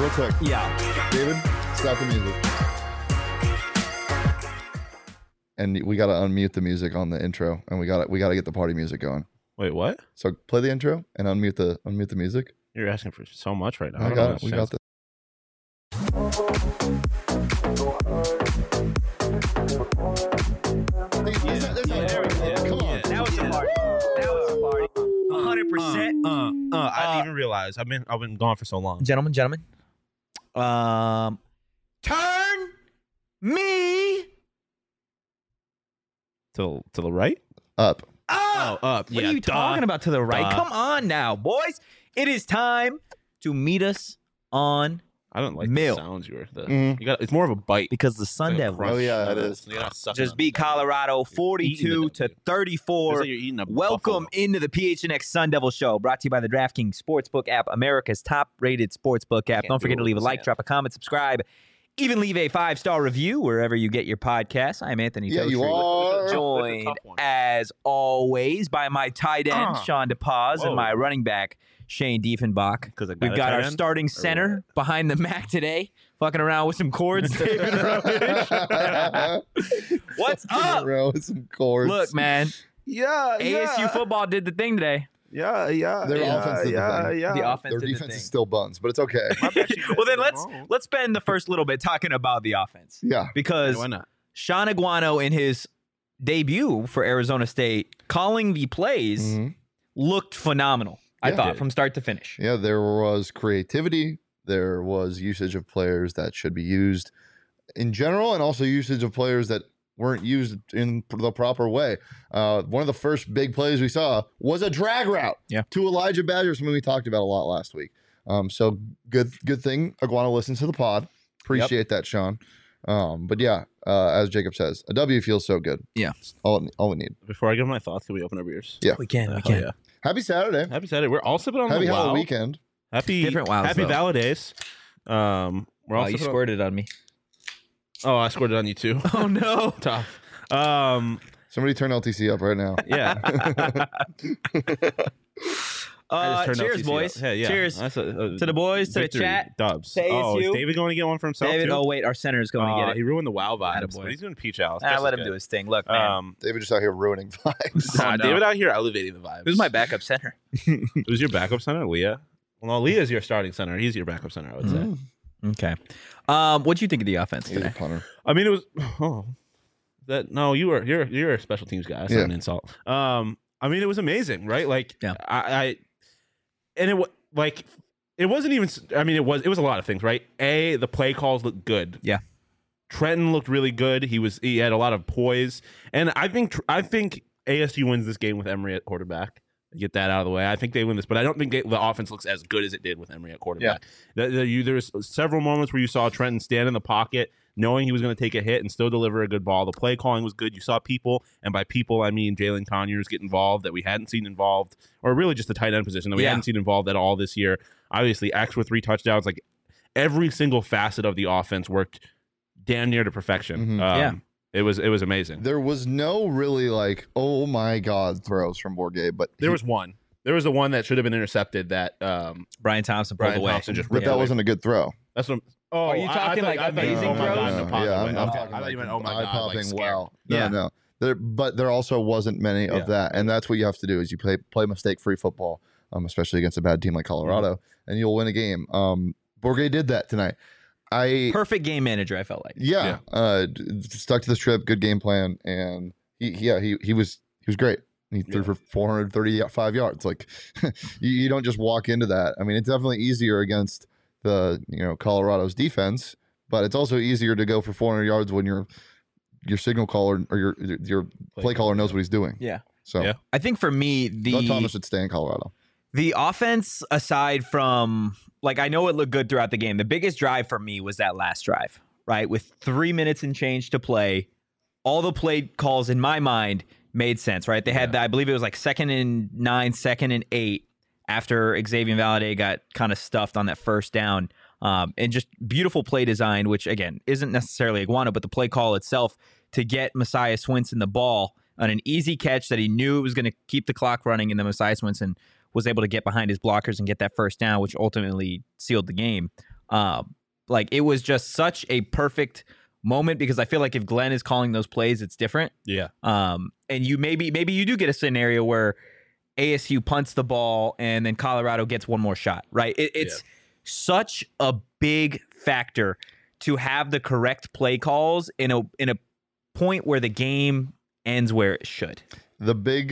real quick. Yeah. David, stop the music. And we got to unmute the music on the intro, and we got to get the party music going. Wait, what? So play the intro and unmute the music. You're asking for so much right now. I got it. We got this. Come on. That was a party. That was a party. 100%. I didn't even realize. I've been gone for so long. Gentlemen. Turn me To the right? Up. up. Up. What Yeah, are you talking about to the right? Duh. Come on now, boys. It is time to meet us on I don't like Mill. the sounds you were. Mhm. You got. It's more of a bite. because the Sun It's like a Devils crunch. Oh, yeah, it is. You gotta suck it just on beat the side. Colorado You're eating 42 it, to dude. 34. It's like you're eating a Welcome buffalo. into the PHNX Sun Devil Show, brought to you by the DraftKings Sportsbook app, America's top-rated sportsbook app. Can't Don't forget do to it leave a with like, this drop a comment, subscribe, even leave a 5-star review wherever you get your podcasts. I'm Anthony Yeah, you Totri, are. That's a joined tough one. as always by my tight end Sean DePaz and Whoa. my running back Shane Diefenbach. Because We've got our starting center behind the Mac today, fucking around with some cords. David Rovich. What's up? Bro, with some chords. Look, man, Yeah. ASU football did the thing today. Yeah. Their offense did the thing. The offense Their did the defense thing. is still buns, but it's okay. Well, then let's spend the first little bit talking about the offense Yeah. because Why not? Sean Aguano in his debut for Arizona State calling the plays Mhm. looked phenomenal. I Yeah. thought from start to finish. Yeah, there was creativity. There was usage of players that should be used in general, and also usage of players that weren't used in the proper way. One of the first big plays we saw was a drag route to Elijah Badger, something we talked about a lot last week. So good thing Aguano listens to the pod. Appreciate that, Sean. But yeah, as Jacob says, a W feels so good. Yeah. All we need. Before I give my thoughts, can we open our beers? Yeah. We can. Oh, yeah. Happy Saturday. Happy Saturday. We're all sipping on Happy the Halloween Wow. weekend. Happy Different wows, Happy though. Valadays. We're all Wow, you sipping on- squirted on me. Oh, I squirted on you too. Oh no. Tough. Somebody turn LTC up right now. Yeah. I just turned Cheers, LTC boys. up. Yeah. Cheers That's a to the boys, to the victory. chat. Dubs. to Oh, is ASU. David going to get one for himself David, too? oh wait, our center is going to get He it. ruined the wow vibes, Attaboy. but he's doing peach house. Let him do his thing. Look, man. David just out here ruining vibes. Oh, no. David out here elevating the vibes. Who's my backup center? Who's your backup center? Leah. Well, no, Leah's your starting center. He's your backup center, I would say. Okay. What'd you think of the offense He's a today? punter. I mean, it was. Oh, that no, you're a special teams guy. That's not an insult. I mean, it was amazing, right? Like, Yeah. And it was like, it wasn't even. I mean, it was a lot of things, right? The play calls looked good. Yeah. Trenton looked really good. He had a lot of poise, and I think ASU wins this game with Emory at quarterback. Get that out of the way. I think they win this, but I don't think the offense looks as good as it did with Emory at quarterback. There was several moments where you saw Trenton stand in the pocket, knowing he was going to take a hit and still deliver a good ball. The play calling was good. You saw people, and by people I mean Jalen Conyers get involved that we hadn't seen involved, or really just the tight end position that we hadn't seen involved at all this year. Obviously, X with 3 touchdowns. Like every single facet of the offense worked damn near to perfection. Mhm. It was amazing. There was no really like, oh my God, throws from Bourget, but There was one. There was the one that should have been intercepted that Brian Thompson pulled Brian away. Thompson just but ripped that away. wasn't a good throw. That's what. Oh, Are you talking like amazing oh my throws? God, in a positive Yeah, way. I'm Okay. talking I thought you meant oh my eye God, popping. like scared. Wow, Yeah. no. But there also wasn't many of that, and that's what you have to do is you play mistake-free football, especially against a bad team like Colorado, and you'll win a game. Bourget did that tonight. Perfect game manager, I felt like. Stuck to the script, good game plan, and he was great. He threw for 435 yards. Like you don't just walk into that. I mean, it's definitely easier against the Colorado's defense, but it's also easier to go for 400 yards when your signal caller or your play caller knows what he's doing. Yeah. So Yeah. I think for me, Don Thomas should stay in Colorado. the offense, aside from, like, I know it looked good throughout the game. The biggest drive for me was that last drive, right? With 3 minutes and change to play, all the play calls in my mind made sense, right? They had, I believe it was like 2nd and 9, 2nd and 8 after Xavier Valladay got kind of stuffed on that first down. And just beautiful play design, which again isn't necessarily Iguana, but the play call itself to get Messiah Swinson the ball on an easy catch that he knew it was going to keep the clock running, and then Messiah Swinson was able to get behind his blockers and get that first down, which ultimately sealed the game. Like it was just such a perfect moment because I feel like if Glenn is calling those plays, it's different. Yeah. And you maybe you do get a scenario where ASU punts the ball and then Colorado gets one more shot, right? It's such a big factor to have the correct play calls in a point where the game ends where it should. The big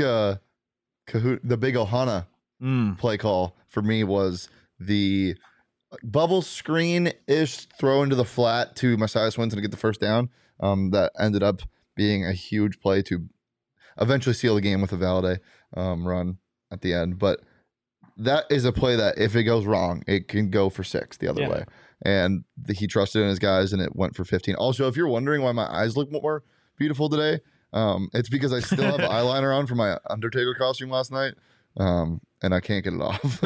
Ohana play call for me was the bubble screen-ish throw into the flat to Messiah Swinson to get the first down. That ended up being a huge play to eventually seal the game with a Valladay run at the end. But that is a play that if it goes wrong, it can go for 6 the other way. And he trusted in his guys, and it went for 15. Also, if you're wondering why my eyes look more beautiful today, it's because I still have eyeliner on from my Undertaker costume last night, and I can't get it off.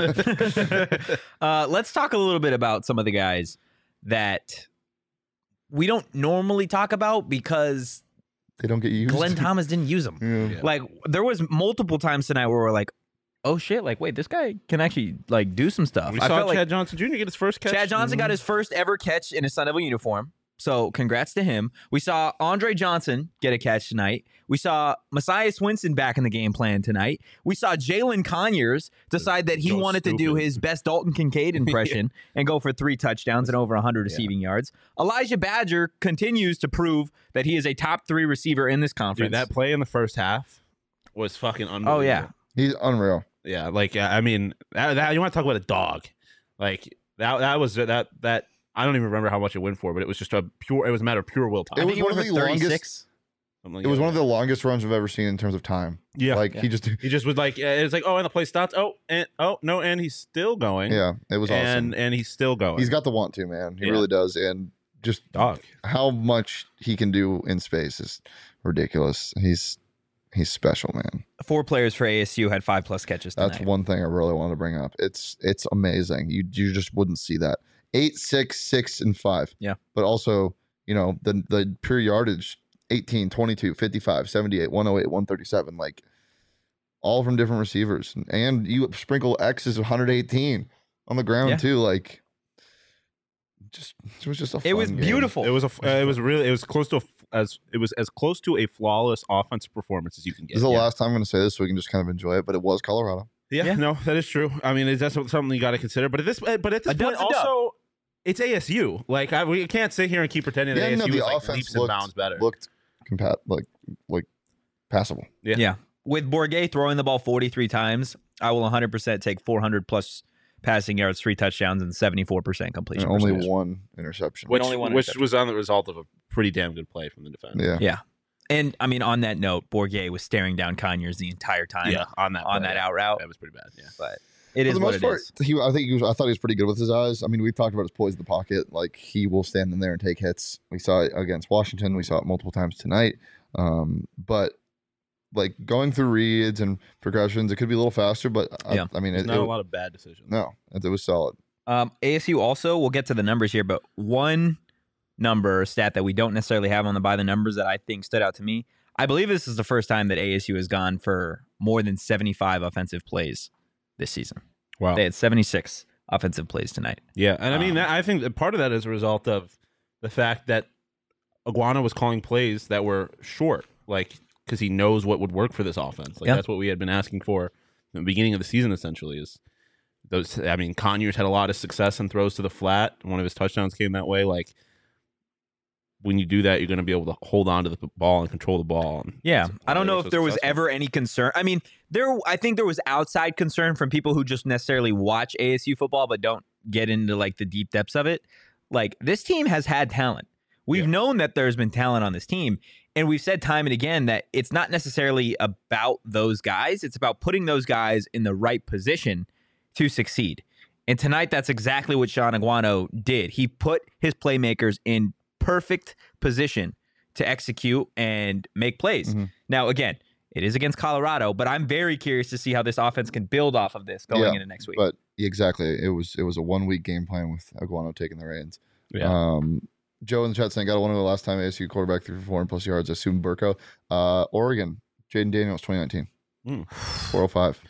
Let's talk a little bit about some of the guys that we don't normally talk about because they don't get used. Glenn Thomas didn't use them. Yeah. Like there was multiple times tonight where we're like, oh shit, like wait, this guy can actually like do some stuff. We I saw felt Chad like Johnson Jr. get his first catch. Chad Johnson got his first ever catch in a Sun Devil uniform. So congrats to him. We saw Andre Johnson get a catch tonight. We saw Messiah Swinson back in the game plan tonight. We saw Jalen Conyers decide that he wanted to do his best Dalton Kincaid impression and go for 3 touchdowns and over 100 receiving yards. Elijah Badger continues to prove that he is a top 3 receiver in this conference. Dude, that play in the first half was fucking unbelievable. Oh yeah, He's unreal. Yeah, like I mean, that you want to talk about a dog? Like that was that I don't even remember how much it went for, but it was just it was a matter of pure willpower. It was one of the longest. Like It was one of the longest runs I've ever seen in terms of time. Yeah, like he just was like it's like and the play stopped. And he's still going. Yeah, it was awesome. And he's still going. He's got the want to, man. He really does, and just dog. How much he can do in space is ridiculous. He's special, man. 4 players for ASU had 5+ catches tonight. That's one thing I really want to bring up. It's amazing. You just wouldn't see that. 8, 6, 6, and 5. Yeah. But also, the pure yardage, 18, 22, 55, 78, 108, 137, like all from different receivers. And you sprinkle X's 118 on the ground too. Like it was just a fun It was game. beautiful. It was close to as close to a flawless offensive performance as you can get. This is the last time I'm going to say this, so we can just kind of enjoy it. But it was Colorado. Yeah, no, that is true. I mean, that's something you got to consider. But at this point, also, it's ASU. Like we can't sit here and keep pretending that ASU is like leaps and bounds better. Looked like passable. Yeah. With Bourguet throwing the ball 43 times, I will 100% take 400+ passing yards, 3 touchdowns, and 74% completion. And only one interception. Which was on the result of a pretty damn good play from the defense. Yeah. And I mean, on that note, Bourguet was staring down Conyers the entire time. Yeah, on that out route. That was pretty bad. Yeah, but it is what it is. I thought he was pretty good with his eyes. I mean, we've talked about his poise in the pocket. Like he will stand in there and take hits. We saw it against Washington. We saw it multiple times tonight. But like going through reads and progressions, it could be a little faster. But I mean, not a lot of bad decisions. No, it was solid. ASU also, we'll get to the numbers here, but one number or stat that we don't necessarily have on the by the numbers that I think stood out to me. I believe this is the first time that ASU has gone for more than 75 offensive plays this season. Wow. They had 76 offensive plays tonight. Yeah, and I mean, I think that part of that is a result of the fact that Iguana was calling plays that were short, like because he knows what would work for this offense. Like that's what we had been asking for in the beginning of the season. Essentially, is those. I mean, Conyers had a lot of success in throws to the flat. One of his touchdowns came that way. Like when you do that, you're going to be able to hold on to the ball and control the ball. Yeah, I don't know if there was ever any concern. I mean, I think there was outside concern from people who just necessarily watch ASU football but don't get into like the deep depths of it. Like this team has had talent. We've known that there's been talent on this team, and we've said time and again that it's not necessarily about those guys. It's about putting those guys in the right position to succeed. And tonight, that's exactly what Sean Aguano did. He put his playmakers in perfect position to execute and make plays. Mm-hmm. Now, again, it is against Colorado, but I'm very curious to see how this offense can build off of this going into next week. But exactly, it was a 1-week game plan with Aguano taking the reins. Yeah. Joe in the chat saying, got to wonder the last time ASU quarterback threw for 400+ yards. I assume Burko. Oregon, Jaden Daniels, 2019. 405.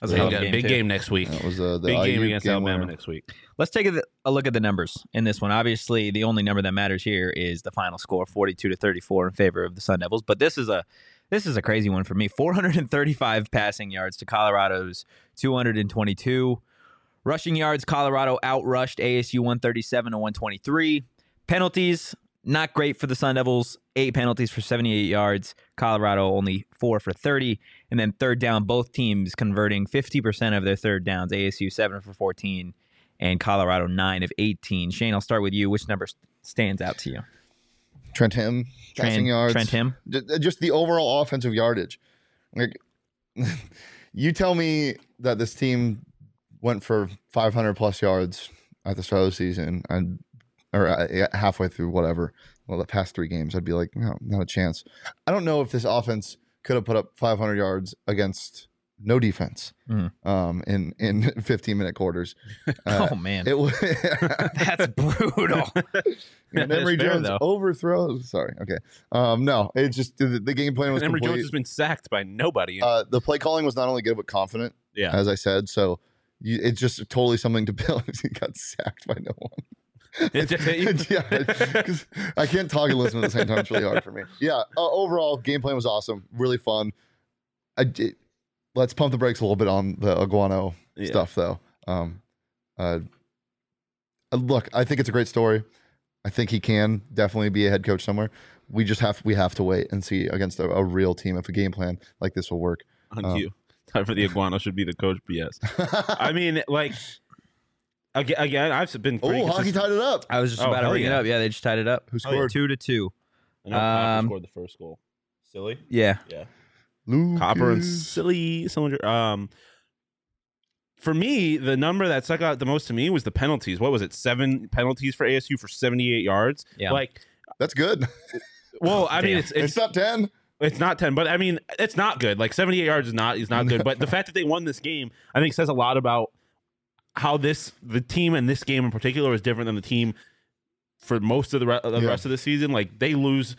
That's a Big, hell of a game, big too. game next week. That was the Big game IU against Alabama winner. next week. Let's take a look at the numbers in this one. Obviously, the only number that matters here is the final score, 42-34 in favor of the Sun Devils. But this is a crazy one for me. 435 passing yards to Colorado's 222. Rushing yards, Colorado outrushed ASU 137-123. Penalties, not great for the Sun Devils. 8 penalties for 78 yards. Colorado only 4 for 30. And then third down, both teams converting 50% of their third downs. ASU 7 for 14 and Colorado 9 of 18. Shane, I'll start with you. Which number stands out to you? Trent Him, passing yards. Trent Him? Just the overall offensive yardage. Like, you tell me that this team went for 500 plus yards at the start of the season or halfway through whatever. Well, the past 3 games, I'd be like, no, not a chance. I don't know if this offense could have put up 500 yards against no defense in 15-minute quarters. Oh, man. It was That's brutal. Emory fair, Jones though. overthrows. Sorry. Okay. No, it's just the game plan was Emory complete. Jones has been sacked by nobody. The play calling was not only good but confident, yeah. as I said. So it's just totally something to build. He got sacked by no one. It just hit you? Yeah, 'cause I can't talk and listen at the same time. It's really hard for me. Yeah. Overall, game plan was awesome. Really fun. Let's pump the brakes a little bit on the Iguano stuff, though. Look, I think it's a great story. I think he can definitely be a head coach somewhere. We have to wait and see against a real team if a game plan like this will work. On you. Time for the Iguana should be the coach BS. I mean, like, again, I've been pretty Hockey consistent. tied it up. I was just Oh, about to hell bring it yeah. up. Yeah, they just tied it up. Who scored? 2-2. I know Copper Um, scored the first goal. Silly? Yeah. Yeah. Lucas. Copper and Silly Cylinder. For me, the number that stuck out the most to me was the penalties. What was it? 7 penalties for ASU for 78 yards. Yeah. Like, That's good. well, I mean, Damn. It's not 10. it's not 10, but I mean, it's not good. Like 78 yards is not good. But the fact that they won this game, I think, says a lot about how the team in this game in particular is different than the team for most of the rest of the season. Like they lose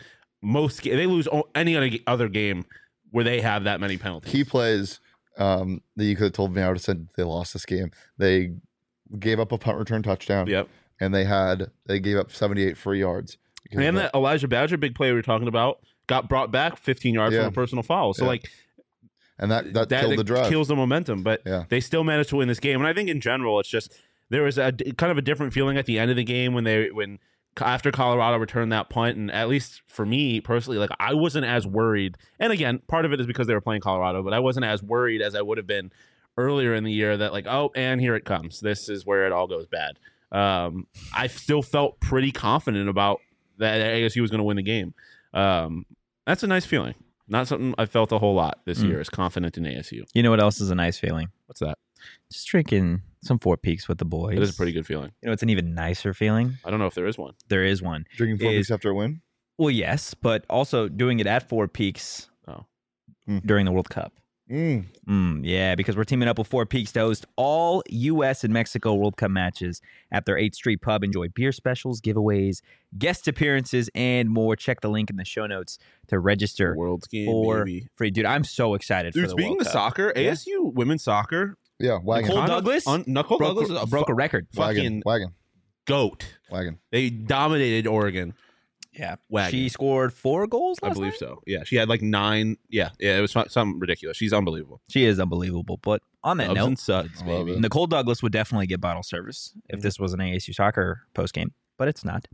any other game where they have that many penalties. Key plays that you could have told me. I would have said they lost this game. They gave up a punt return touchdown. Yep. And they gave up 78 free yards. And that Elijah Badger big play we were talking about got brought back 15 yards from a personal foul. So like, and that killed the drive. Kills the momentum, but Yeah. they still managed to win this game. And I think in general, it's just there was a kind of a different feeling at the end of the game when after Colorado returned that punt, and at least for me personally, like I wasn't as worried. And again, part of it is because they were playing Colorado, but I wasn't as worried as I would have been earlier in the year that like, oh, and here it comes. This is where it all goes bad. I still felt pretty confident about that ASU was going to win the game. That's a nice feeling. Not something I felt a whole lot this year, is confident in ASU. You know what else is a nice feeling? What's that? Just drinking some Four Peaks with the boys. It is a pretty good feeling. You know, it's an even nicer feeling. I don't know if there is one. There is one. Drinking 4 is- weeks after a win. Well, yes, but also doing it at Four Peaks Oh. during the World Cup. Yeah, because we're teaming up with Four Peaks to host all U.S. and Mexico World Cup matches at their 8th Street Pub. Enjoy beer specials, giveaways, guest appearances, and more. Check the link in the show notes to register World's game, for baby. free. Dude, I'm so excited Dude, for the speaking World of Cup. soccer, Yeah. ASU women's soccer. Yeah, wagon. Nicole Douglas Nicole Douglas is broke a record. fucking Wagon. goat. Wagon. They dominated Oregon. Yeah. Wagon. She scored 4 goals I last believe night? so. Yeah, she had like 9. Yeah, it was something ridiculous. She's unbelievable. She is unbelievable. But on that Loves note, and suds, I love baby. it. Nicole Douglas would definitely get bottle service if this was an ASU soccer postgame, but it's not.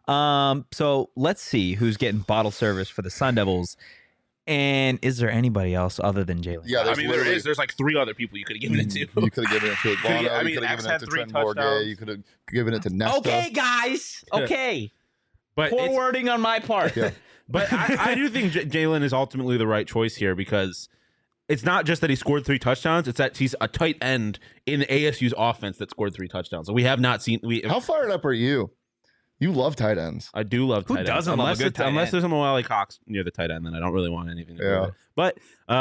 So let's see who's getting bottle service for the Sun Devils. And is there anybody else other than Jalen? Yeah, I there's mean, there literally- is. There's like 3 other people you could have given it to. You could have given it to Iguano. I mean, you could have X given it had to 3 Trent Morgan. touchdowns. You could have given it to Nesta. Okay, guys. Okay. But Poor it's- wording on my part. Yeah. But I do think Jalen is ultimately the right choice here because it's not just that he scored 3 touchdowns; it's that he's a tight end in the ASU's offense that scored 3 touchdowns. So we have not seen. How fired up are you? You love tight ends. I do love Who tight ends. doesn't love a unless good it's- tight unless end? there's a Moali Cox near the tight end, then I don't really want anything to do Yeah. with it. But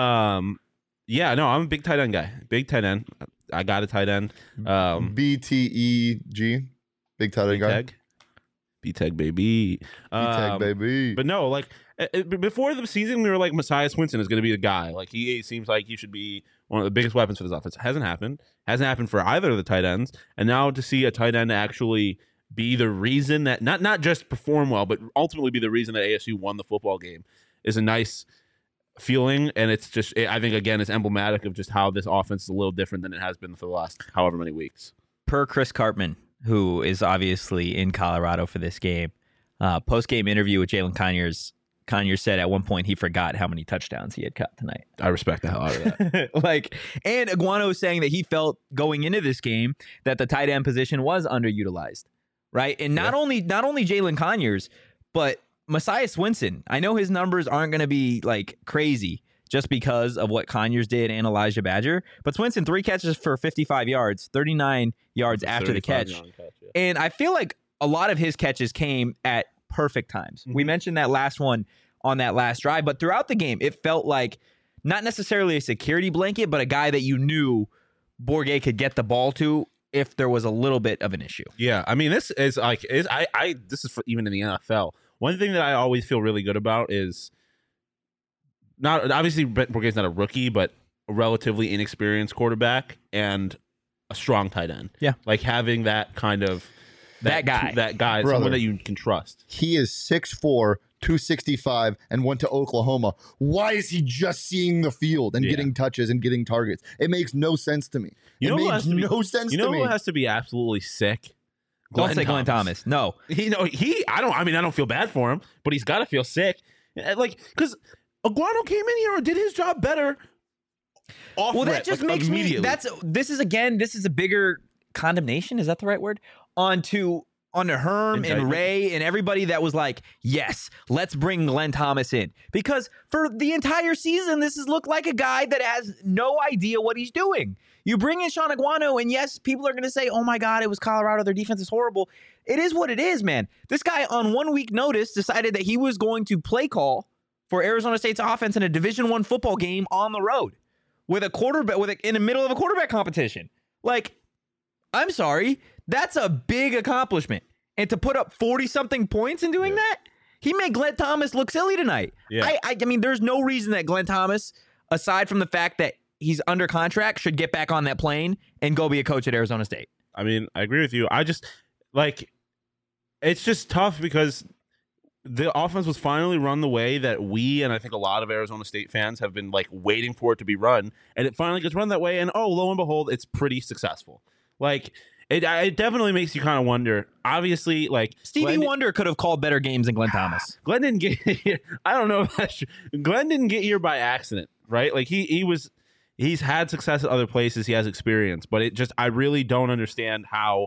yeah, no, I'm a big tight end guy. Big tight end. I got a tight end. BTEG. Big tight end guy. Teg. B-Tech, baby. Tag baby. But no, like before the season, we were like, Messiah Swinson is going to be the guy. Like he seems like he should be one of the biggest weapons for this offense. Hasn't happened. Hasn't happened for either of the tight ends. And now to see a tight end actually be the reason that not just perform well, but ultimately be the reason that ASU won the football game is a nice feeling. And it's just, I think again, it's emblematic of just how this offense is a little different than it has been for the last however many weeks. Per Chris Cartman, who is obviously in Colorado for this game, post-game interview with Jalen Conyers, Conyers said at one point he forgot how many touchdowns he had caught tonight. I respect the hell out of that. And Iguano was saying that he felt going into this game that the tight end position was underutilized, right? And not only Jalen Conyers, but Messiah Swinson. I know his numbers aren't going to be like crazy just because of what Conyers did and Elijah Badger, but Swinson 3 catches for 55 yards, 39 yards after the catch. And I feel like a lot of his catches came at perfect times. Mm-hmm. We mentioned that last one on that last drive, but throughout the game, it felt like not necessarily a security blanket, but a guy that you knew Bourguet could get the ball to if there was a little bit of an issue. Yeah, I mean, this is like, this is for even in the NFL. One thing that I always feel really good about is not obviously Bourguet's not a rookie, but a relatively inexperienced quarterback and a strong tight end. Yeah, like having that kind of that guy, Brother, someone that you can trust. He is 6'4", 265, and went to Oklahoma. Why is he just seeing the field and getting touches and getting targets? It makes no sense to me. You know who has to be absolutely sick? Don't say Glenn Thomas. No, I don't feel bad for him, but he's got to feel sick. Like, because Iguano came in here and did his job better. That just makes me. This is a bigger condemnation. Is that the right word? Onto Herm and Ray and everybody that was like, yes, let's bring Glenn Thomas in. Because for the entire season, this has looked like a guy that has no idea what he's doing. You bring in Sean Iguano, and yes, people are going to say, oh my God, it was Colorado. Their defense is horrible. It is what it is, man. This guy on 1 week notice decided that he was going to play call for Arizona State's offense in a Division I football game on the road with a quarterback, in the middle of a quarterback competition. Like, I'm sorry. That's a big accomplishment. And to put up 40-something points in doing that, he made Glenn Thomas look silly tonight. Yeah. I mean, there's no reason that Glenn Thomas, aside from the fact that he's under contract, should get back on that plane and go be a coach at Arizona State. I mean, I agree with you. I just, like, it's just tough because the offense was finally run the way that we, and I think a lot of Arizona State fans have been, like, waiting for it to be run. And it finally gets run that way, and lo and behold, it's pretty successful. Like, it definitely makes you kind of wonder. Obviously, like Stevie Wonder could have called better games than Glenn Thomas. Glenn didn't get here. I don't know if that's true. Glenn didn't get here by accident, right? Like he's had success at other places. He has experience, but I really don't understand how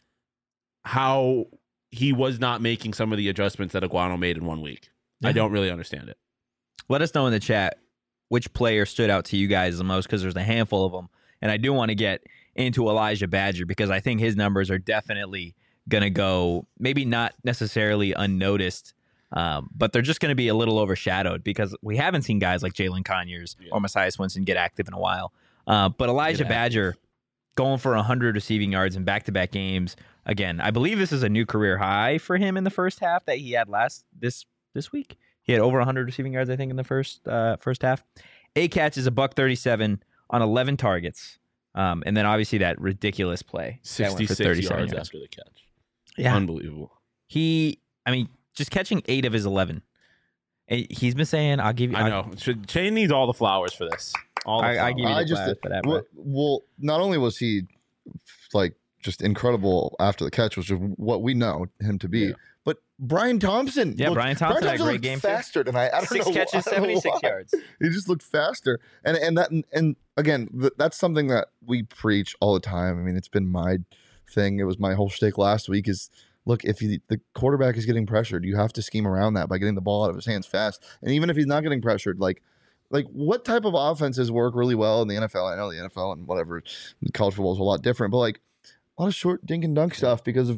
he was not making some of the adjustments that Iguano made in 1 week. I don't really understand it. Let us know in the chat which player stood out to you guys the most, because there's a handful of them, and I do want to get into Elijah Badger because I think his numbers are definitely going to go, maybe not necessarily unnoticed, but they're just going to be a little overshadowed because we haven't seen guys like Jalen Conyers or Messiah Swinson get active in a while. But Elijah Badger going for 100 receiving yards in back-to-back games. Again, I believe this is a new career high for him in the first half that he had this week. He had over 100 receiving yards, I think, in the first half. 8 catches, $137 on 11 targets. And then obviously that ridiculous play. 66 yards after the catch. Yeah. Unbelievable. Just catching 8 of his 11. He's been saying, I'll give you. I know. Shane needs all the flowers for this. I give you the flowers for that. Well, not only was he like just incredible after the catch, which is what we know him to be, but Brian Thompson. Yeah, Brian Thompson had a great game faster than I don't 6 know. 6 catches, 76 yards. He just looked faster. And again, that's something that we preach all the time. I mean, it's been my thing. It was my whole shtick last week is, look, if the quarterback is getting pressured, you have to scheme around that by getting the ball out of his hands fast. And even if he's not getting pressured, like what type of offenses work really well in the NFL? I know the NFL and whatever, college football is a lot different, but like a lot of short dink and dunk stuff because of the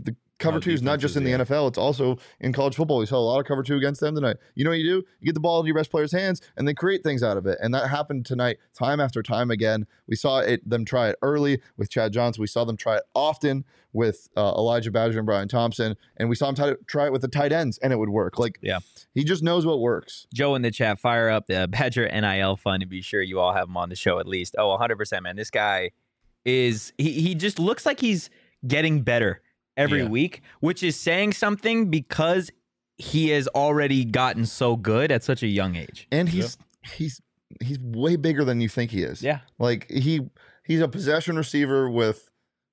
cover how two is not just in the defenses, NFL; it's also in college football. We saw a lot of cover two against them tonight. You know what you do? You get the ball into your best player's hands, and they create things out of it. And that happened tonight, time after time again. We saw them try it early with Chad Johnson. We saw them try it often with Elijah Badger and Brian Thompson, and we saw him try it with the tight ends, and it would work. Like, Yeah. he just knows what works. Joe in the chat, fire up the Badger NIL fund and be sure you all have him on the show at least. Oh, 100%, man. This guy is he just looks like he's getting better every week, which is saying something because he has already gotten so good at such a young age. And he's way bigger than you think he is. Yeah. Like he's a possession receiver with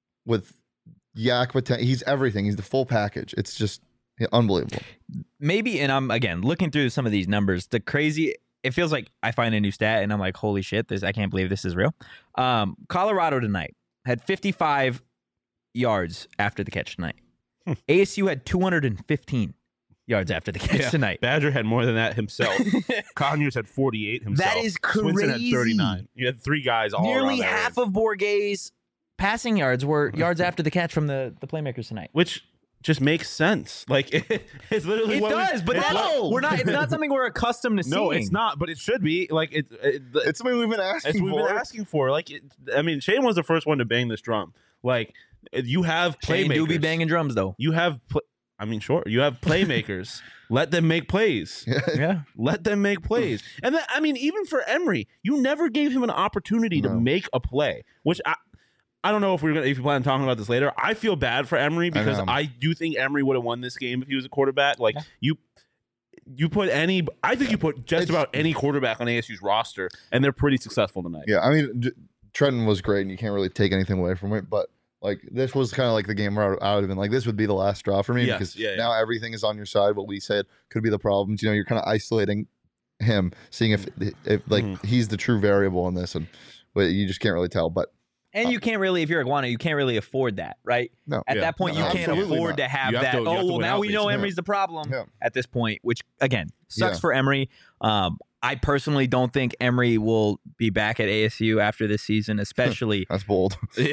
yak potential. He's everything. He's the full package. It's just unbelievable. Maybe, and I'm again looking through some of these numbers. It feels like I find a new stat and I'm like, holy shit, I can't believe this is real. Colorado tonight had 55 yards after the catch tonight. ASU had 215 yards after the catch tonight. Badger had more than that himself. Conyers had 48 himself. That is Swinson had crazy. 39. You had three guys all Nearly around half of Bourget's passing yards were yards after the catch from the playmakers tonight. which just makes sense. Like it's literally It what does, but it's not something we're accustomed to seeing. No, it's not, but it should be. Like It's something we've been asking we've been asking for. Like Shane was the first one to bang this drum. Like you have Shane playmakers. do be banging drums though. You have sure. You have playmakers. Let them make plays. Yeah. Let them make plays. And then, even for Emery, you never gave him an opportunity to make a play, which I don't know if you plan on talking about this later. I feel bad for Emery because I do think Emery would have won this game if he was a quarterback. Like you put I think you put just about any quarterback on ASU's roster, and they're pretty successful tonight. Yeah, Trenton was great, and you can't really take anything away from it. But like this was kind of like the game where I would have been like, this would be the last straw for me because now everything is on your side. What we said could be the problems. You're kind of isolating him, seeing if he's the true variable in this, but you just can't really tell. But And you can't really, if you're Iguana, you can't really afford that, right? No. At that point, you can't afford to have that. Now we know Emery's the problem at this point, which, again, sucks for Emery. I personally don't think Emery will be back at ASU after this season, especially. That's bold.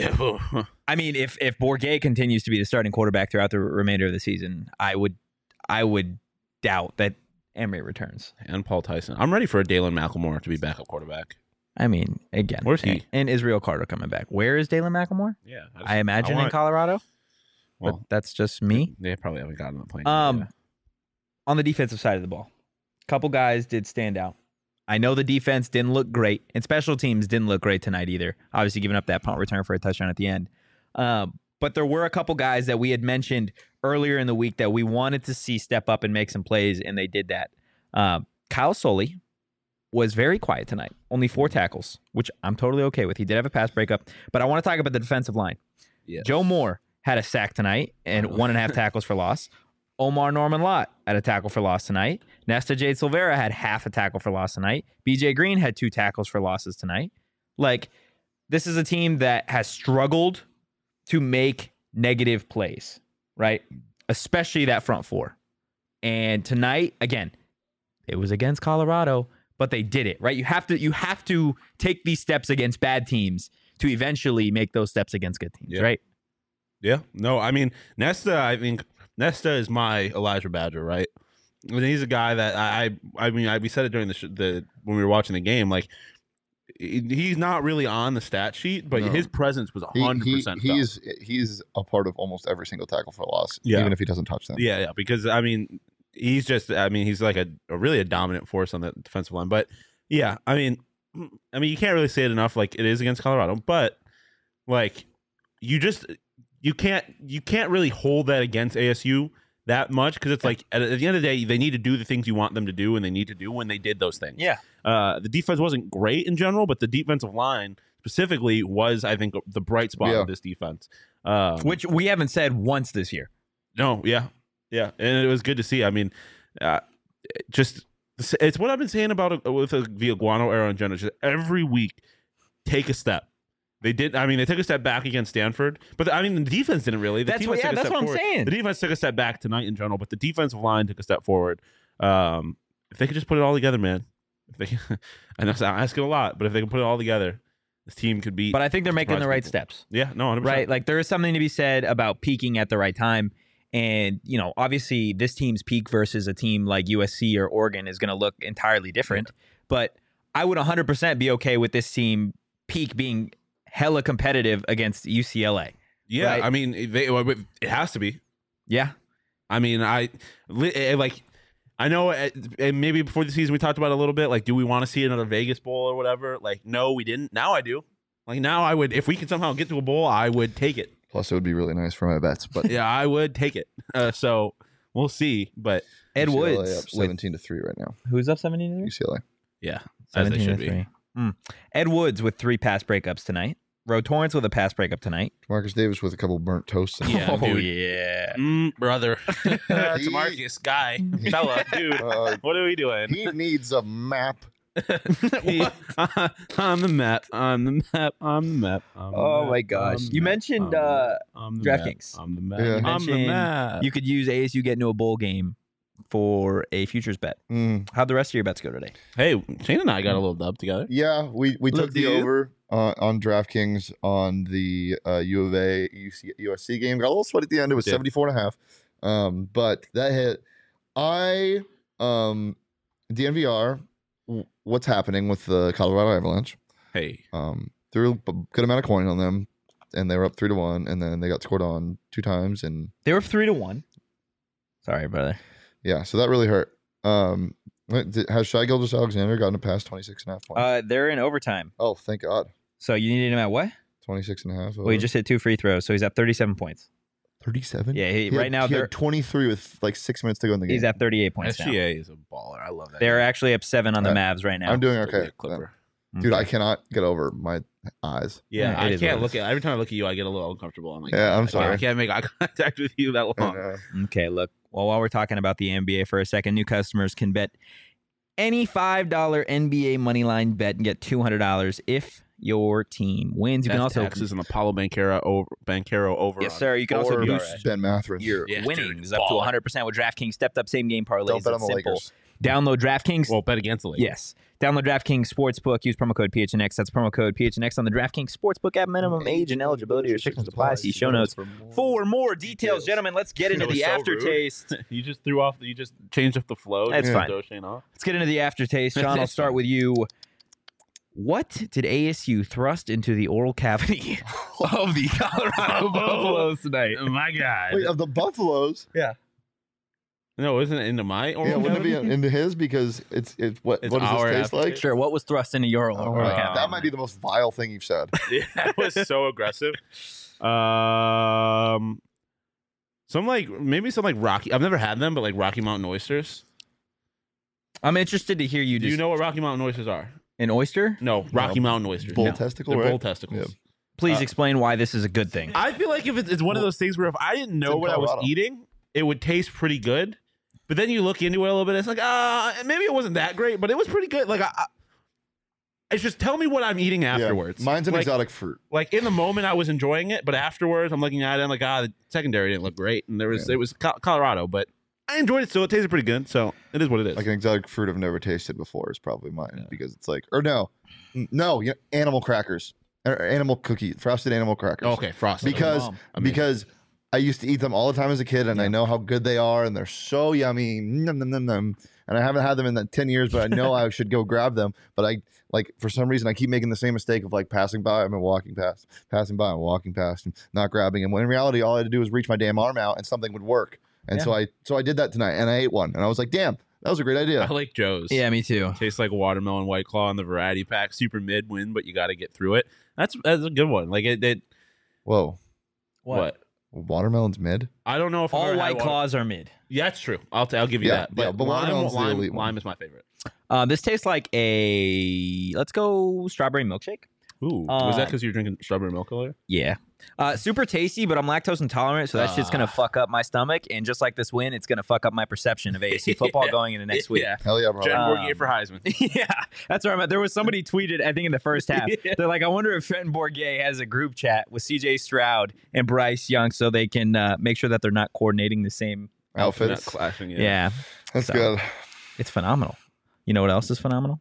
If Bourget continues to be the starting quarterback throughout the remainder of the season, I would doubt that Emery returns. And Paul Tyson. I'm ready for a Dalen McLemore to be backup quarterback. Again, where's he? And Israel Carter coming back. Where is Dalen McLemore? Yeah, I imagine in Colorado. Well, but that's just me. They probably haven't gotten on the plane. On the defensive side of the ball, a couple guys did stand out. I know the defense didn't look great, and special teams didn't look great tonight either. Obviously, giving up that punt return for a touchdown at the end. But there were a couple guys that we had mentioned earlier in the week that we wanted to see step up and make some plays, and they did that. Kyle Soley was very quiet tonight. Only 4 tackles, which I'm totally okay with. He did have a pass breakup, but I want to talk about the defensive line. Yes. Joe Moore had a sack tonight and 1.5 tackles for loss. Omar Norman Lott had a tackle for loss tonight. Nesta Jade Silvera had half a tackle for loss tonight. BJ Green had 2 tackles for losses tonight. Like, this is a team that has struggled to make negative plays, right? Especially that front 4. And tonight, again, it was against Colorado, but they did it, right? You have to take these steps against bad teams to eventually make those steps against good teams, right? Yeah. No, Nesta is my Elijah Badger, right? He's a guy that we said it during when we were watching the game, like he's not really on the stat sheet, but his presence was 100%. He's a part of almost every single tackle for loss, yeah. even if he doesn't touch them. Yeah, because he's just he's like a really dominant force on the defensive line. But yeah, you can't really say it enough. Like it is against Colorado, but like you can't really hold that against ASU that much because it's like at the end of the day they need to do the things you want them to do and they need to do when they did those things. Yeah. The defense wasn't great in general, but the defensive line specifically was, I think, the bright spot of this defense. Which we haven't said once this year. No, yeah. And it was good to see. It's what I've been saying about with the Iguano era in general. Just every week, take a step. They did. They took a step back against Stanford, but the defense didn't really. That's what I'm saying. The defense took a step back tonight in general, but the defensive line took a step forward. If they could just put it all together, man. I know I'm asking a lot, but if they can put it all together, this team could beat. But I think they're making the right steps. Yeah, no, 100%. Right, like there is something to be said about peaking at the right time. And, obviously this team's peak versus a team like USC or Oregon is going to look entirely different. But I would 100% be okay with this team peak being hella competitive against UCLA. Yeah, right? I mean, it has to be. Yeah. I mean, I know, and maybe before the season we talked about it a little bit. Like, do we want to see another Vegas bowl or whatever? Like, no, we didn't. Now I do. Like, now I would, if we could somehow get to a bowl, I would take it. Plus, it would be really nice for my bets. But Yeah, I would take it. So we'll see. But Ed UCLA Woods. up 17-3 right now. Who's up 17-3? UCLA. yeah, as they should be. Ed Woods with 3 pass breakups tonight. Ro Torrance with a pass breakup tonight. Marcus Davis with a couple burnt toasts. Yeah, dude. yeah. Brother. Tamarcus, guy, fella, dude. What are we doing? He needs a map. On the map. Oh my gosh. You mentioned DraftKings. On the map. Yeah. You On the mentioned map. you could use ASU get into a bowl game for a futures bet. How'd the rest of your bets go today? Hey, Shane and I got a little dub together. Yeah, we took the do. over on DraftKings on the U of A USC game. Got a little sweat at the end. It was 74.5. But that hit. DNVR, what's happening with the Colorado Avalanche? Hey. Threw a good amount of coin on them, and they were up 3-1, and then they got scored on 2 times, and They were 3-1. Sorry, brother. yeah, so that really hurt. Has Shai Gilgeous-Alexander gotten past 26.5 points? They're in overtime. Oh, thank God. So you needed him at what? 26.5. Well, he just hit 2 free throws, so he's at 37 points. 37? Yeah, right now he they're had 23 with like 6 minutes to go in the game. he's at 38 points now. SGA is a baller. I love that. They're actually up 7 on the Mavs right now. I'm doing Still be okay. a Clipper. Dude, I cannot get over my eyes. Yeah, Yeah, it I is can't what it look at. Every time I look at you, I get a little uncomfortable. I'm like, Yeah, I'm I sorry. can't make eye contact with you that long. Okay, look. Well, while we're talking about the NBA for a second, new customers can bet any $5 NBA moneyline bet and get $200 if your team wins. You can also taxes and Apollo Banquero over. yes, sir. You can also Or boost Ben Matherin. your Yeah, winnings dude, up to baller. 100% with DraftKings stepped up same game parlays. Don't bet on It's the simple. Lakers. Download DraftKings. Well, bet against the Lakers. Yes. Download DraftKings Sportsbook. Use promo code PHNX. That's promo code PHNX on the DraftKings Sportsbook app. Minimum age and eligibility restrictions apply. See show notes for more details. Gentlemen, let's get into That was the so aftertaste. You just threw off. You just changed up the flow. That's You fine. throw Shane off. Let's get into the aftertaste. John, I'll That's start fine. with you. What did ASU thrust into the oral cavity of the Colorado Buffaloes tonight? Oh my God. Wait, of the Buffaloes? No, isn't it into my oral Yeah, wouldn't it cavity? be into his because it's what It's does our this taste like? aftertaste. Sure. What was thrust into your Oh oral my cavity? God. That might be the most vile thing you've said. Yeah, that was so aggressive. Maybe some like Rocky. I've never had them, but like Rocky Mountain oysters. I'm interested to hear you. Do you know what Rocky Mountain oysters are? an oyster? No, Rocky Mountain oysters. Bull No. testicle, They're right? bull testicles. Please explain why this is a good thing. I feel like if it's one of those things where if I didn't know in what I was Colorado. eating, it would taste pretty good. But then you look into it a little bit, it's like, maybe it wasn't that great, but it was pretty good. Like, it's just tell me what I'm eating Yeah. afterwards. Mine's an like, exotic fruit. Like in the moment, I was enjoying it, but afterwards, I'm looking at it, and like, the secondary didn't look great, and it was Colorado, but I enjoyed it still. It tasted pretty good, so it is what it is. Like an exotic fruit I've never tasted before is probably mine because it's like, or no, animal crackers, or animal cookie, frosted animal crackers. Okay, frosted. Because because I used to eat them all the time as a kid, and I know how good they are, and they're so yummy. Nom, nom, nom, nom. And I haven't had them in that 10 years, but I know I should go grab them. But I for some reason I keep making the same mistake of like passing by and walking past, and not grabbing them. When in reality, all I had to do was reach my damn arm out, and something would work. And so I did that tonight, and I ate one, and I was like, damn, that was a great idea. I like Joe's. Yeah, me too. Tastes like watermelon White Claw in the variety pack. Super mid win, but you got to get through it. That's a good one. Like it Whoa, what? watermelon's mid. I don't know if I've All ever had White water- Claws are mid. Yeah, that's true. I'll give you Yeah, that. yeah, but watermelon's the elite one. lime is my favorite. This tastes like let's go strawberry milkshake. Ooh, was that because you were drinking strawberry milk earlier? Yeah. Super tasty, but I'm lactose intolerant, so that shit's going to fuck up my stomach. And just like this win, it's going to fuck up my perception of ASU football going into next week. Yeah. Hell yeah, bro. Jen Bourguet for Heisman. Yeah, that's where I'm at. There was somebody tweeted, I think in the first half, they're like, I wonder if Trenton Bourguet has a group chat with CJ Stroud and Bryce Young so they can make sure that they're not coordinating the same Outfits. Not clashing. Yeah. That's So, good. It's phenomenal. You know what else is phenomenal?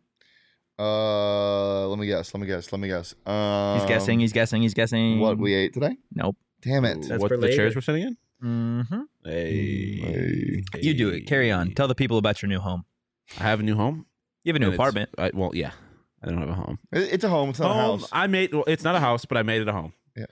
Let me guess. He's guessing. What we ate today? Nope. Damn it. That's What for the later. chairs we're sitting in? Mm-hmm. Hey. You do it. Carry on. Tell the people about your new home. I have a new home. You have a new and apartment. Well, yeah. I don't have a home. It's a home. It's not a house. It's not a house, but I made it a home. Yeah.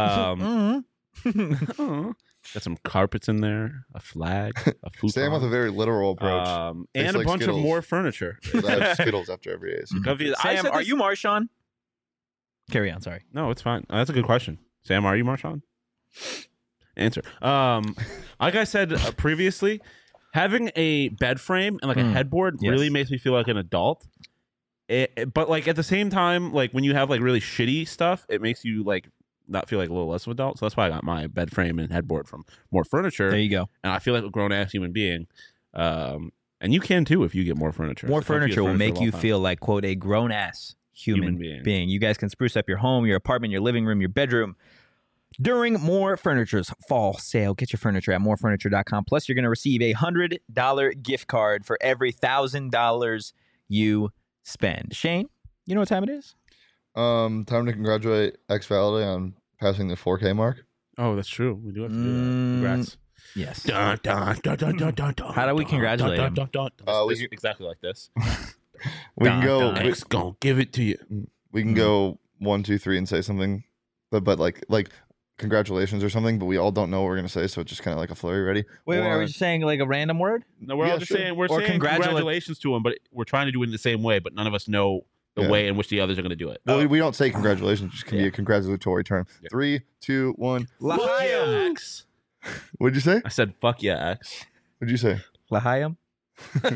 Got some carpets in there, a flag, a futon. Sam with a very literal approach. And like a bunch Skittles. of more furniture. I have Skittles after every ASU. Sam, are you Marshawn? Carry on. Sorry. No, it's fine. That's a good question. Sam, are you Marshawn? Answer. Like I said previously, having a bed frame and like a headboard really makes me feel like an adult. But like at the same time, like when you have like really shitty stuff, it makes you like not feel like a little less of an adult. So that's why I got my bed frame and headboard from More Furniture. There you go. And I feel like a grown ass human being. And you can too if you get More Furniture. More It's the comfiest furniture will make of all you time. feel like, quote, a grown ass human being. You guys can spruce up your home, your apartment, your living room, your bedroom during More Furniture's fall sale. Get your furniture at morefurniture.com. Plus, you're going to receive a $100 gift card for every $1,000 you spend. Shane, you know what time it is? Time to congratulate X Valide on passing the 4K mark. Oh, that's true. We do have to do that. Congrats. Yes. Dun, dun, dun, dun, dun, dun, dun, How do we dun, congratulate dun, him? dun, dun, dun. We This- can- exactly like this. We can go. Dun, X gonna give it to you. We can go 1, 2, 3 and say something, but like congratulations or something. But we all don't know what we're gonna say, so it's just kind of like a flurry ready. Wait, are Or- we just saying like a random word? No, we're Yeah, all just sure. saying we're Or saying congratulations to him, but we're trying to do it in the same way, but none of us know the Yeah. way in which the others are going to do it. Well, we don't say congratulations. It just can be a congratulatory term. Yeah. 3, 2, 1. Fuck yeah, X. What'd you say? I said, "Fuck yeah, X." What'd you say? Lahayim? I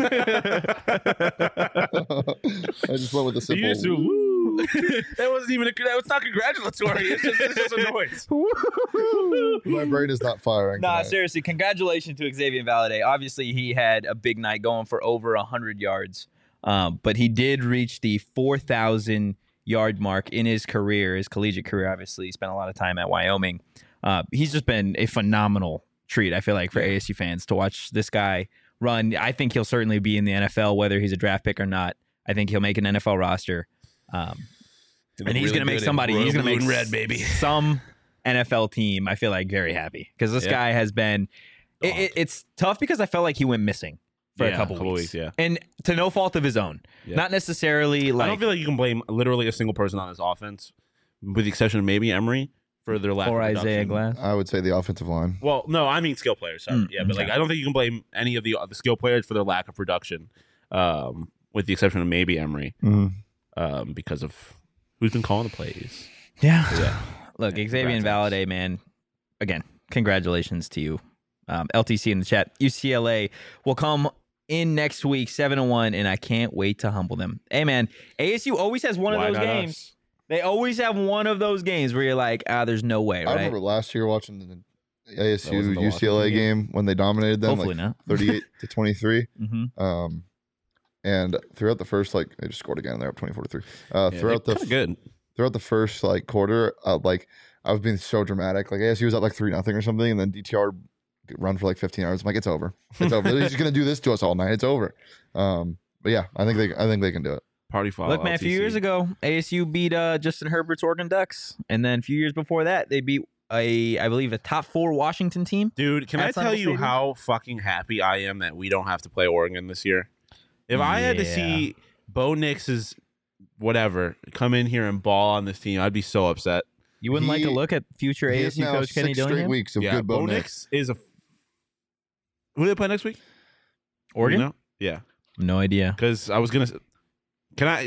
just went with the simple. You just do, woo. That wasn't even that was not congratulatory. It's just a noise. My brain is not firing. Nah, tonight. seriously, congratulations to Xavier Valade. Obviously, he had a big night going for over 100 yards, but he did reach the 4,000 yard mark in his career, his collegiate career. Obviously, he spent a lot of time at Wyoming. He's just been a phenomenal treat, I feel like, for ASU fans to watch this guy run. I think he'll certainly be in the NFL, whether he's a draft pick or not. I think he'll make an NFL roster. And he's going to make somebody, he's going to make red, baby. some NFL team, I feel like, very happy because this guy has been. It's tough because I felt like he went missing for a couple weeks. Yeah. And to no fault of his own. Yeah. Not necessarily I like. don't feel like you can blame literally a single person on this offense, with the exception of maybe Emory for their lack or of Isaiah production. Glass. I would say the offensive line. Well, no, I mean skill players. Sorry. Yeah, but like okay. I don't think you can blame any of the skill players for their lack of production, with the exception of maybe Emory, because of who's been calling the plays. Yeah. Yeah. Look, Yeah, Xavier and congrats, Valade, man. Again, congratulations to you. LTC in the chat. UCLA will come in next week, 7-1, and I can't wait to humble them. Hey, man, ASU always has one Why of those not games. us? They always have one of those games where you're like, there's no way, I right? remember last year watching the That ASU wasn't the UCLA Washington game when they dominated them, Hopefully like not. 38-23. Mm-hmm. And throughout the first, like, they just scored again. They're up 24-3. Yeah, Throughout they're the kinda good. throughout the first like quarter, like I was being so dramatic. Like ASU was up like 3-0 or something, and then DTR run for like 15 yards. I'm like, it's over. It's over. He's just gonna do this to us all night. It's over. But yeah, I think they can do it. Party foul. Look, man, a few years ago, ASU beat Justin Herbert's Oregon Ducks. And then a few years before that, they beat, I believe, a top 4 Washington team. Dude, can I At Sun tell Bowl you Stadium? how fucking happy I am that we don't have to play Oregon this year? If I had to Yeah. see Bo Nix's whatever come in here and ball on this team, I'd be so upset. You wouldn't like to He- look at future He has ASU now coach Kenny 6 straight Dillingham? weeks of Yeah, good Bo Nix. is a. Who do they play next week? Oregon? You know? Yeah, No idea. because I was gonna. Can I?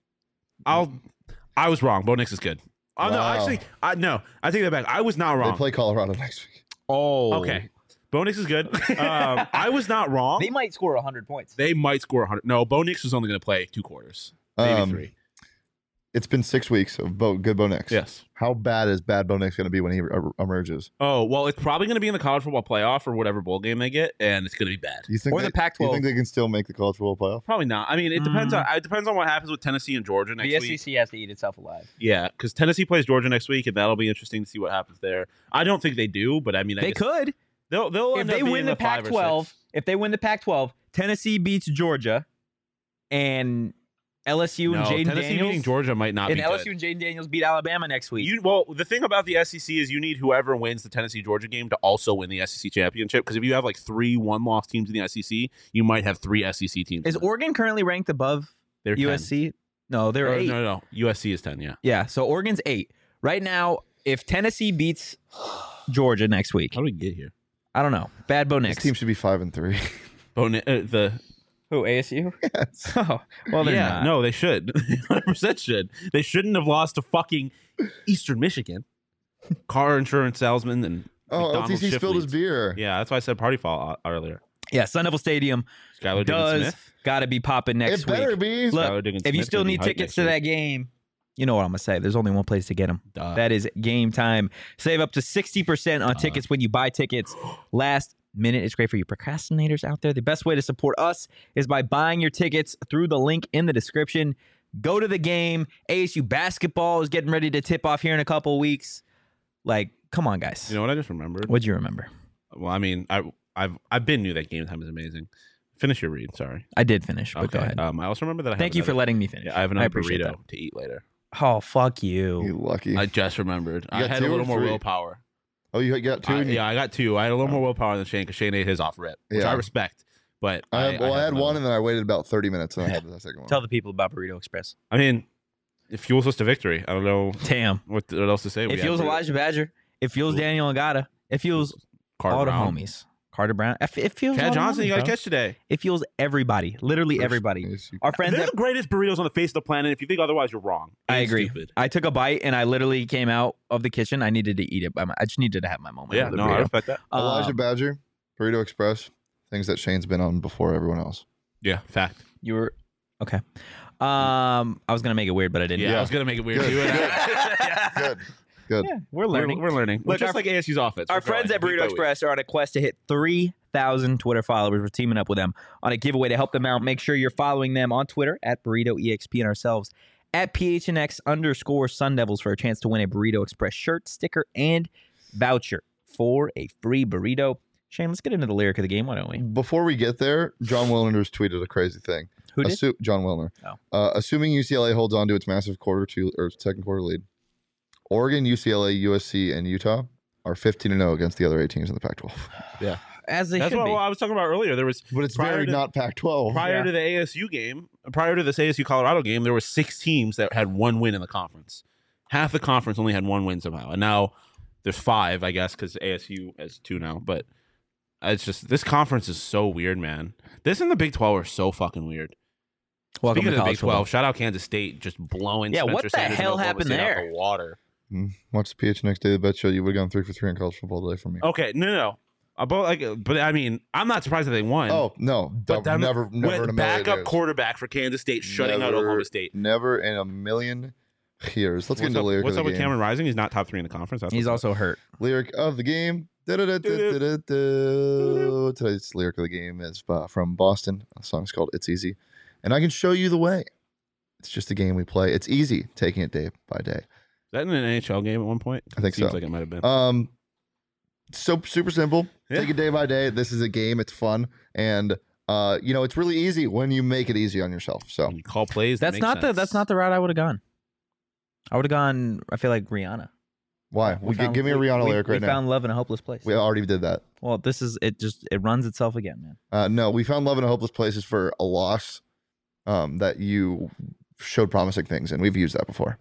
I was wrong. Bo Nix is good. Oh no, Wow. actually, I take that back. I was not They wrong. play Colorado next week. Oh. Okay, Bo Nix is good. I was not wrong. They might score 100 points. They might score 100. No, Bo Nix is only going to play 2 quarters, maybe 3. It's been 6 weeks of good Bo Nix. Yes. How bad is bad Bo Nix going to be when he emerges? Oh well, it's probably going to be in the college football playoff or whatever bowl game they get, and it's going to be bad. Do you think Or the Do Pac-12. you think they can still make the college football playoff? Probably not. I mean, it depends on what happens with Tennessee and Georgia next The week. SEC has to eat itself alive. Yeah, because Tennessee plays Georgia next week, and that'll be interesting to see what happens there. I don't think they do, but I mean, I They guess could. They'll If end they up being win the 5 or 6. Pac-12, if they win the Pac-12, Tennessee beats Georgia, and LSU and Jaden Tennessee Daniels. beating Georgia might not And be LSU good. and Jaden Daniels beat Alabama next week. The thing about the SEC is you need whoever wins the Tennessee Georgia game to also win the SEC championship. Because if you have like 3 one-loss teams in the SEC, you might have 3 SEC teams. Is Oregon currently ranked above They're 10. USC? No, they're 8. No. USC is 10. Yeah. Yeah, so Oregon's 8 right now. If Tennessee beats Georgia next week, How do we get here? I don't know. Bad Bo This Nix. team should be 5-3. Who, ASU? Yes. Oh, well, they're yeah, not. no, they should. 100% should. They shouldn't have lost to fucking Eastern Michigan. Car insurance salesman and Oh, McDonald's LTC shift spilled his leads. beer. Yeah, that's why I said party foul earlier. Yeah, Sun Devil Stadium Skylar does Diggins-Smith. got to be popping next It better week. be. Look, Skylar Diggins-Smith if you still gonna be need hyped tickets next to week. that game, you know what I'm going to say. There's only one place to get them. Duh. That is Game Time. Save up to 60% on tickets when you buy tickets last minute. It's great for you procrastinators out there. The best way to support us is by buying your tickets through the link in the description. Go to the game. ASU basketball is getting ready to tip off here in a couple of weeks. Like, come on, guys. You know what I just remembered? What'd you remember? Well, I mean, I've been knew that Game Time is amazing. Finish your read. Sorry. I did finish, but go ahead. I also remember that I Thank you for letting me finish. I have another appreciate burrito to eat later. that. Oh, fuck you. You lucky. I just remembered. I got had 2 a or little more 3? willpower. Oh, you got 2? Yeah, I got 2. I had a little more willpower than Shane because Shane ate his off rip, which Yeah. I respect. But I had another one, and then I waited about 30 minutes, and I had the second one. Tell the people about Burrito Express. I mean, it fuels us to victory. I don't know Damn. what else to say. It fuels Elijah Badger. It fuels Daniel Agata. It fuels Carter all Brown. the homies. Carter Brown. It fuels all Chad the Johnson, homies, you got to bro. catch today. It fuels everybody. Literally everybody. Our friends They're at the greatest burritos on the face of the planet. If you think otherwise, you're wrong. I Ain't agree. Stupid. I took a bite and I literally came out of the kitchen. I needed to eat it. I just needed to have my moment. Yeah, with the no, I burrito. respect that. Elijah Badger, Burrito Express, things that Shane's been on before everyone else. Yeah, fact. You were okay. I was gonna make it weird, but I didn't. Yeah, Yeah. I was gonna make it weird. Good, too. Good. Good. Yeah, we're learning. We're learning. Look, Just our- like ASU's offense. Our We're growing friends at week Burrito by week. Express are on a quest to hit 3,000 Twitter followers. We're teaming up with them on a giveaway to help them out. Make sure you're following them on Twitter at BurritoEXP and ourselves at PHNX_Sun Devils for a chance to win a Burrito Express shirt, sticker, and voucher for a free burrito. Shane, let's get into the lyric of the game. Why don't we? Before we get there, John Wilner's tweeted a crazy thing. Who did? John Wilner. Oh. Assuming UCLA holds on to its massive second quarter lead, Oregon, UCLA, USC, and Utah are 15-0 against the other 8 teams in the Pac-12. Yeah, As they that's should what be. I was talking about earlier. There was But it's Prior very to- not Pac-12. prior Yeah. to the ASU game, prior to this ASU Colorado game, there were 6 teams that had 1 win in the conference. Half the conference only had 1 win somehow, and now there's 5, I guess, because ASU has 2 now. But it's just this conference is so weird, man. This and the Big 12 are so fucking weird. Welcome Speaking to of the college Big 12, football. shout out Kansas State just blowing. Yeah, Spencer what the Sanders and hell Oklahoma happened State out there? the water. Watch the PHNX Daily Bet Show. You would have gone 3 for 3 on college football today from me. Okay, no. But I mean, I'm not surprised that they won. Oh, no. but them, Never in a million backup years. quarterback for Kansas State shutting out Never- Oklahoma State. Never in a million years. Let's get into the lyric What's of up the with game. Cameron Rising? He's not top 3 in the conference. That's He's what's up. also hurt. Lyric of the game. Today's lyric of the game is from Boston. The song's called It's Easy. And I can show you the way. It's just a game we play. It's easy, taking it day by day. Is that in an NHL game at one point? I think Seems so. like it might have been. So super simple. Yeah. Take it day by day. This is a game. It's fun. And it's really easy when you make it easy on yourself. So When you call plays. that That's make not sense. that's not the route I would have gone. I would have gone. I feel like Rihanna. why? Give me a Rihanna lyric right we now. found love in a hopeless place. We already did that. Well, this is it. It runs itself again, man. No, we found love in a hopeless place is for a loss that you showed promising things, and we've used that before.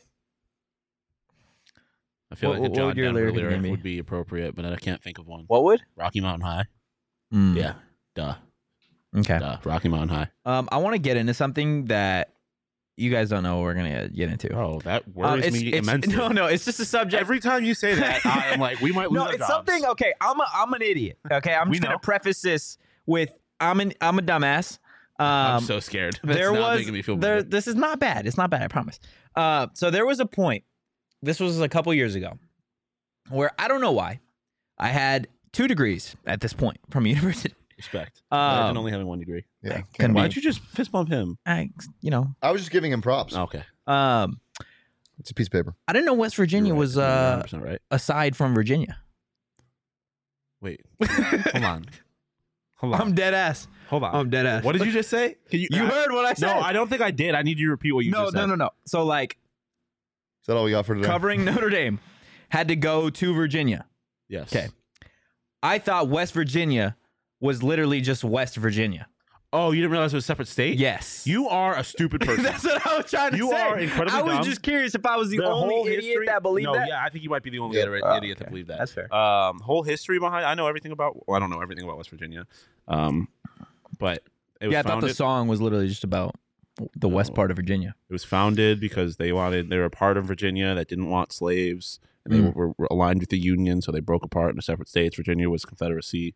I feel What like a John would your Denver lyric lyric be? would be appropriate, but I can't think of one. What would? Rocky Mountain High. Mm. Yeah. Duh. Okay. Rocky Mountain High. I want to get into something that you guys don't know what we're gonna get into. Oh, that worries me immensely. No, it's just a subject. Every time you say that, I'm like, we might lose No, our it's jobs. something. Okay, I'm an idiot. Okay, I'm We just gonna know. preface this with I'm a dumbass. I'm so scared. That's there not was making me feel there. better. This is not bad. It's not bad. I promise. So there was a point. This was a couple years ago, where I don't know why, I had 2 degrees at this point from university. Respect. Imagine Um, only having 1 degree. Yeah. Can Why be. don't you just fist bump him? I I was just giving him props. Okay. It's a piece of paper. I didn't know West Virginia You're right. was You're 100% right. aside from Virginia. Wait. Hold on. Hold on. I'm dead ass. Hold on. I'm dead ass. What did you just say? Can You heard what I said? No, I don't think I did. I need you to repeat what you just said. No. So like Is that all we got for today? covering Notre Dame had to go to Virginia. Yes. Okay. I thought West Virginia was literally just West Virginia. Oh, you didn't realize it was a separate state? Yes. You are a stupid person. That's what I was trying to say. You are incredibly I was dumb. just curious if I was the whole only idiot that believed no, that. yeah, I think you might be the only Yeah. idiot Okay. that believed that. That's fair. Whole history behind. I know everything about. Well, I don't know everything about West Virginia. But it was Yeah, I thought founded. the song was literally just about the west part of Virginia. It was founded because they were a part of Virginia that didn't want slaves, and they were aligned with the Union, so they broke apart into separate states. Virginia was Confederacy.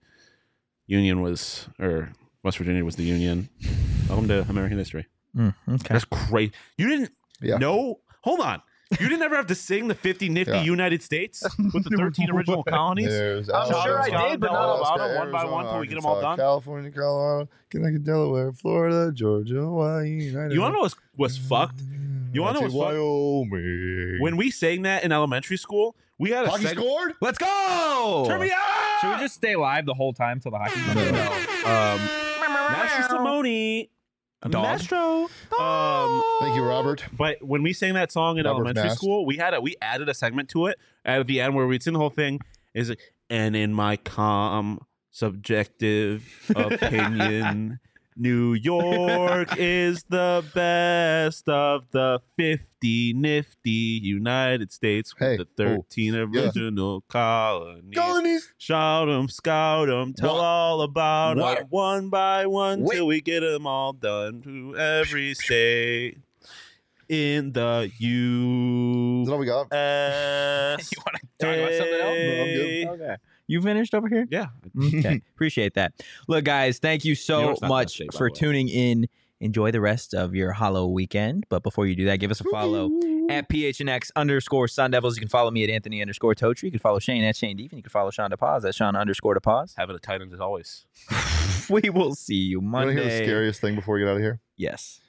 West Virginia was the Union. Welcome to American history. Okay. That's great. You didn't Yeah. know? Hold on. You didn't ever have to sing the 50 Nifty Yeah. United States with the 13 original colonies? There's I'm sure I Alaska, did, but not Alaska, one by one Arizona, till we get them all Arkansas, done. California, Colorado, Kentucky, Delaware, Florida, Georgia, Hawaii. You want to know what's fucked? You wanna know what's fucked? Wyoming. When we sang that in elementary school, we had a Hockey segment. scored? Let's go! Turn me on! Should we just stay live the whole time till the hockey comes on? Master Simone. Dog. Maestro. Thank you, Robert. But when we sang that song in Robert elementary Mast. school, we added a segment to it at the end where we'd sing the whole thing. Is like, and in my calm, subjective opinion, New York is the best of the 50 nifty United States with Hey, the 13 yeah. original colonies. Colonies. Shout 'em, scout 'em, tell What? all about 'em What? one by one Wait. till we get 'em all done to every state in the Is that all we got? U.S. You want to talk about something else? No, I'm good. Okay. You finished over here? Yeah. Okay. Appreciate that. Look, guys, thank you You know so it's not that much state, by for the way. tuning in. Enjoy the rest of your Hollow weekend. But before you do that, give us a follow at PHNX_Sun Devils. You can follow me at Anthony_Totri. You can follow Shane at Shane Deep. And you can follow Sean DePaz at Sean_DePaz. Having a tight end as always. We will see you You want to Monday. hear the scariest thing before we get out of here? Yes.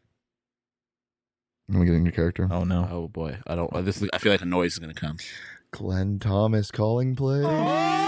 Let me get in your character. Oh, no. Oh boy, I feel like a noise is gonna come. Glenn Thomas calling play.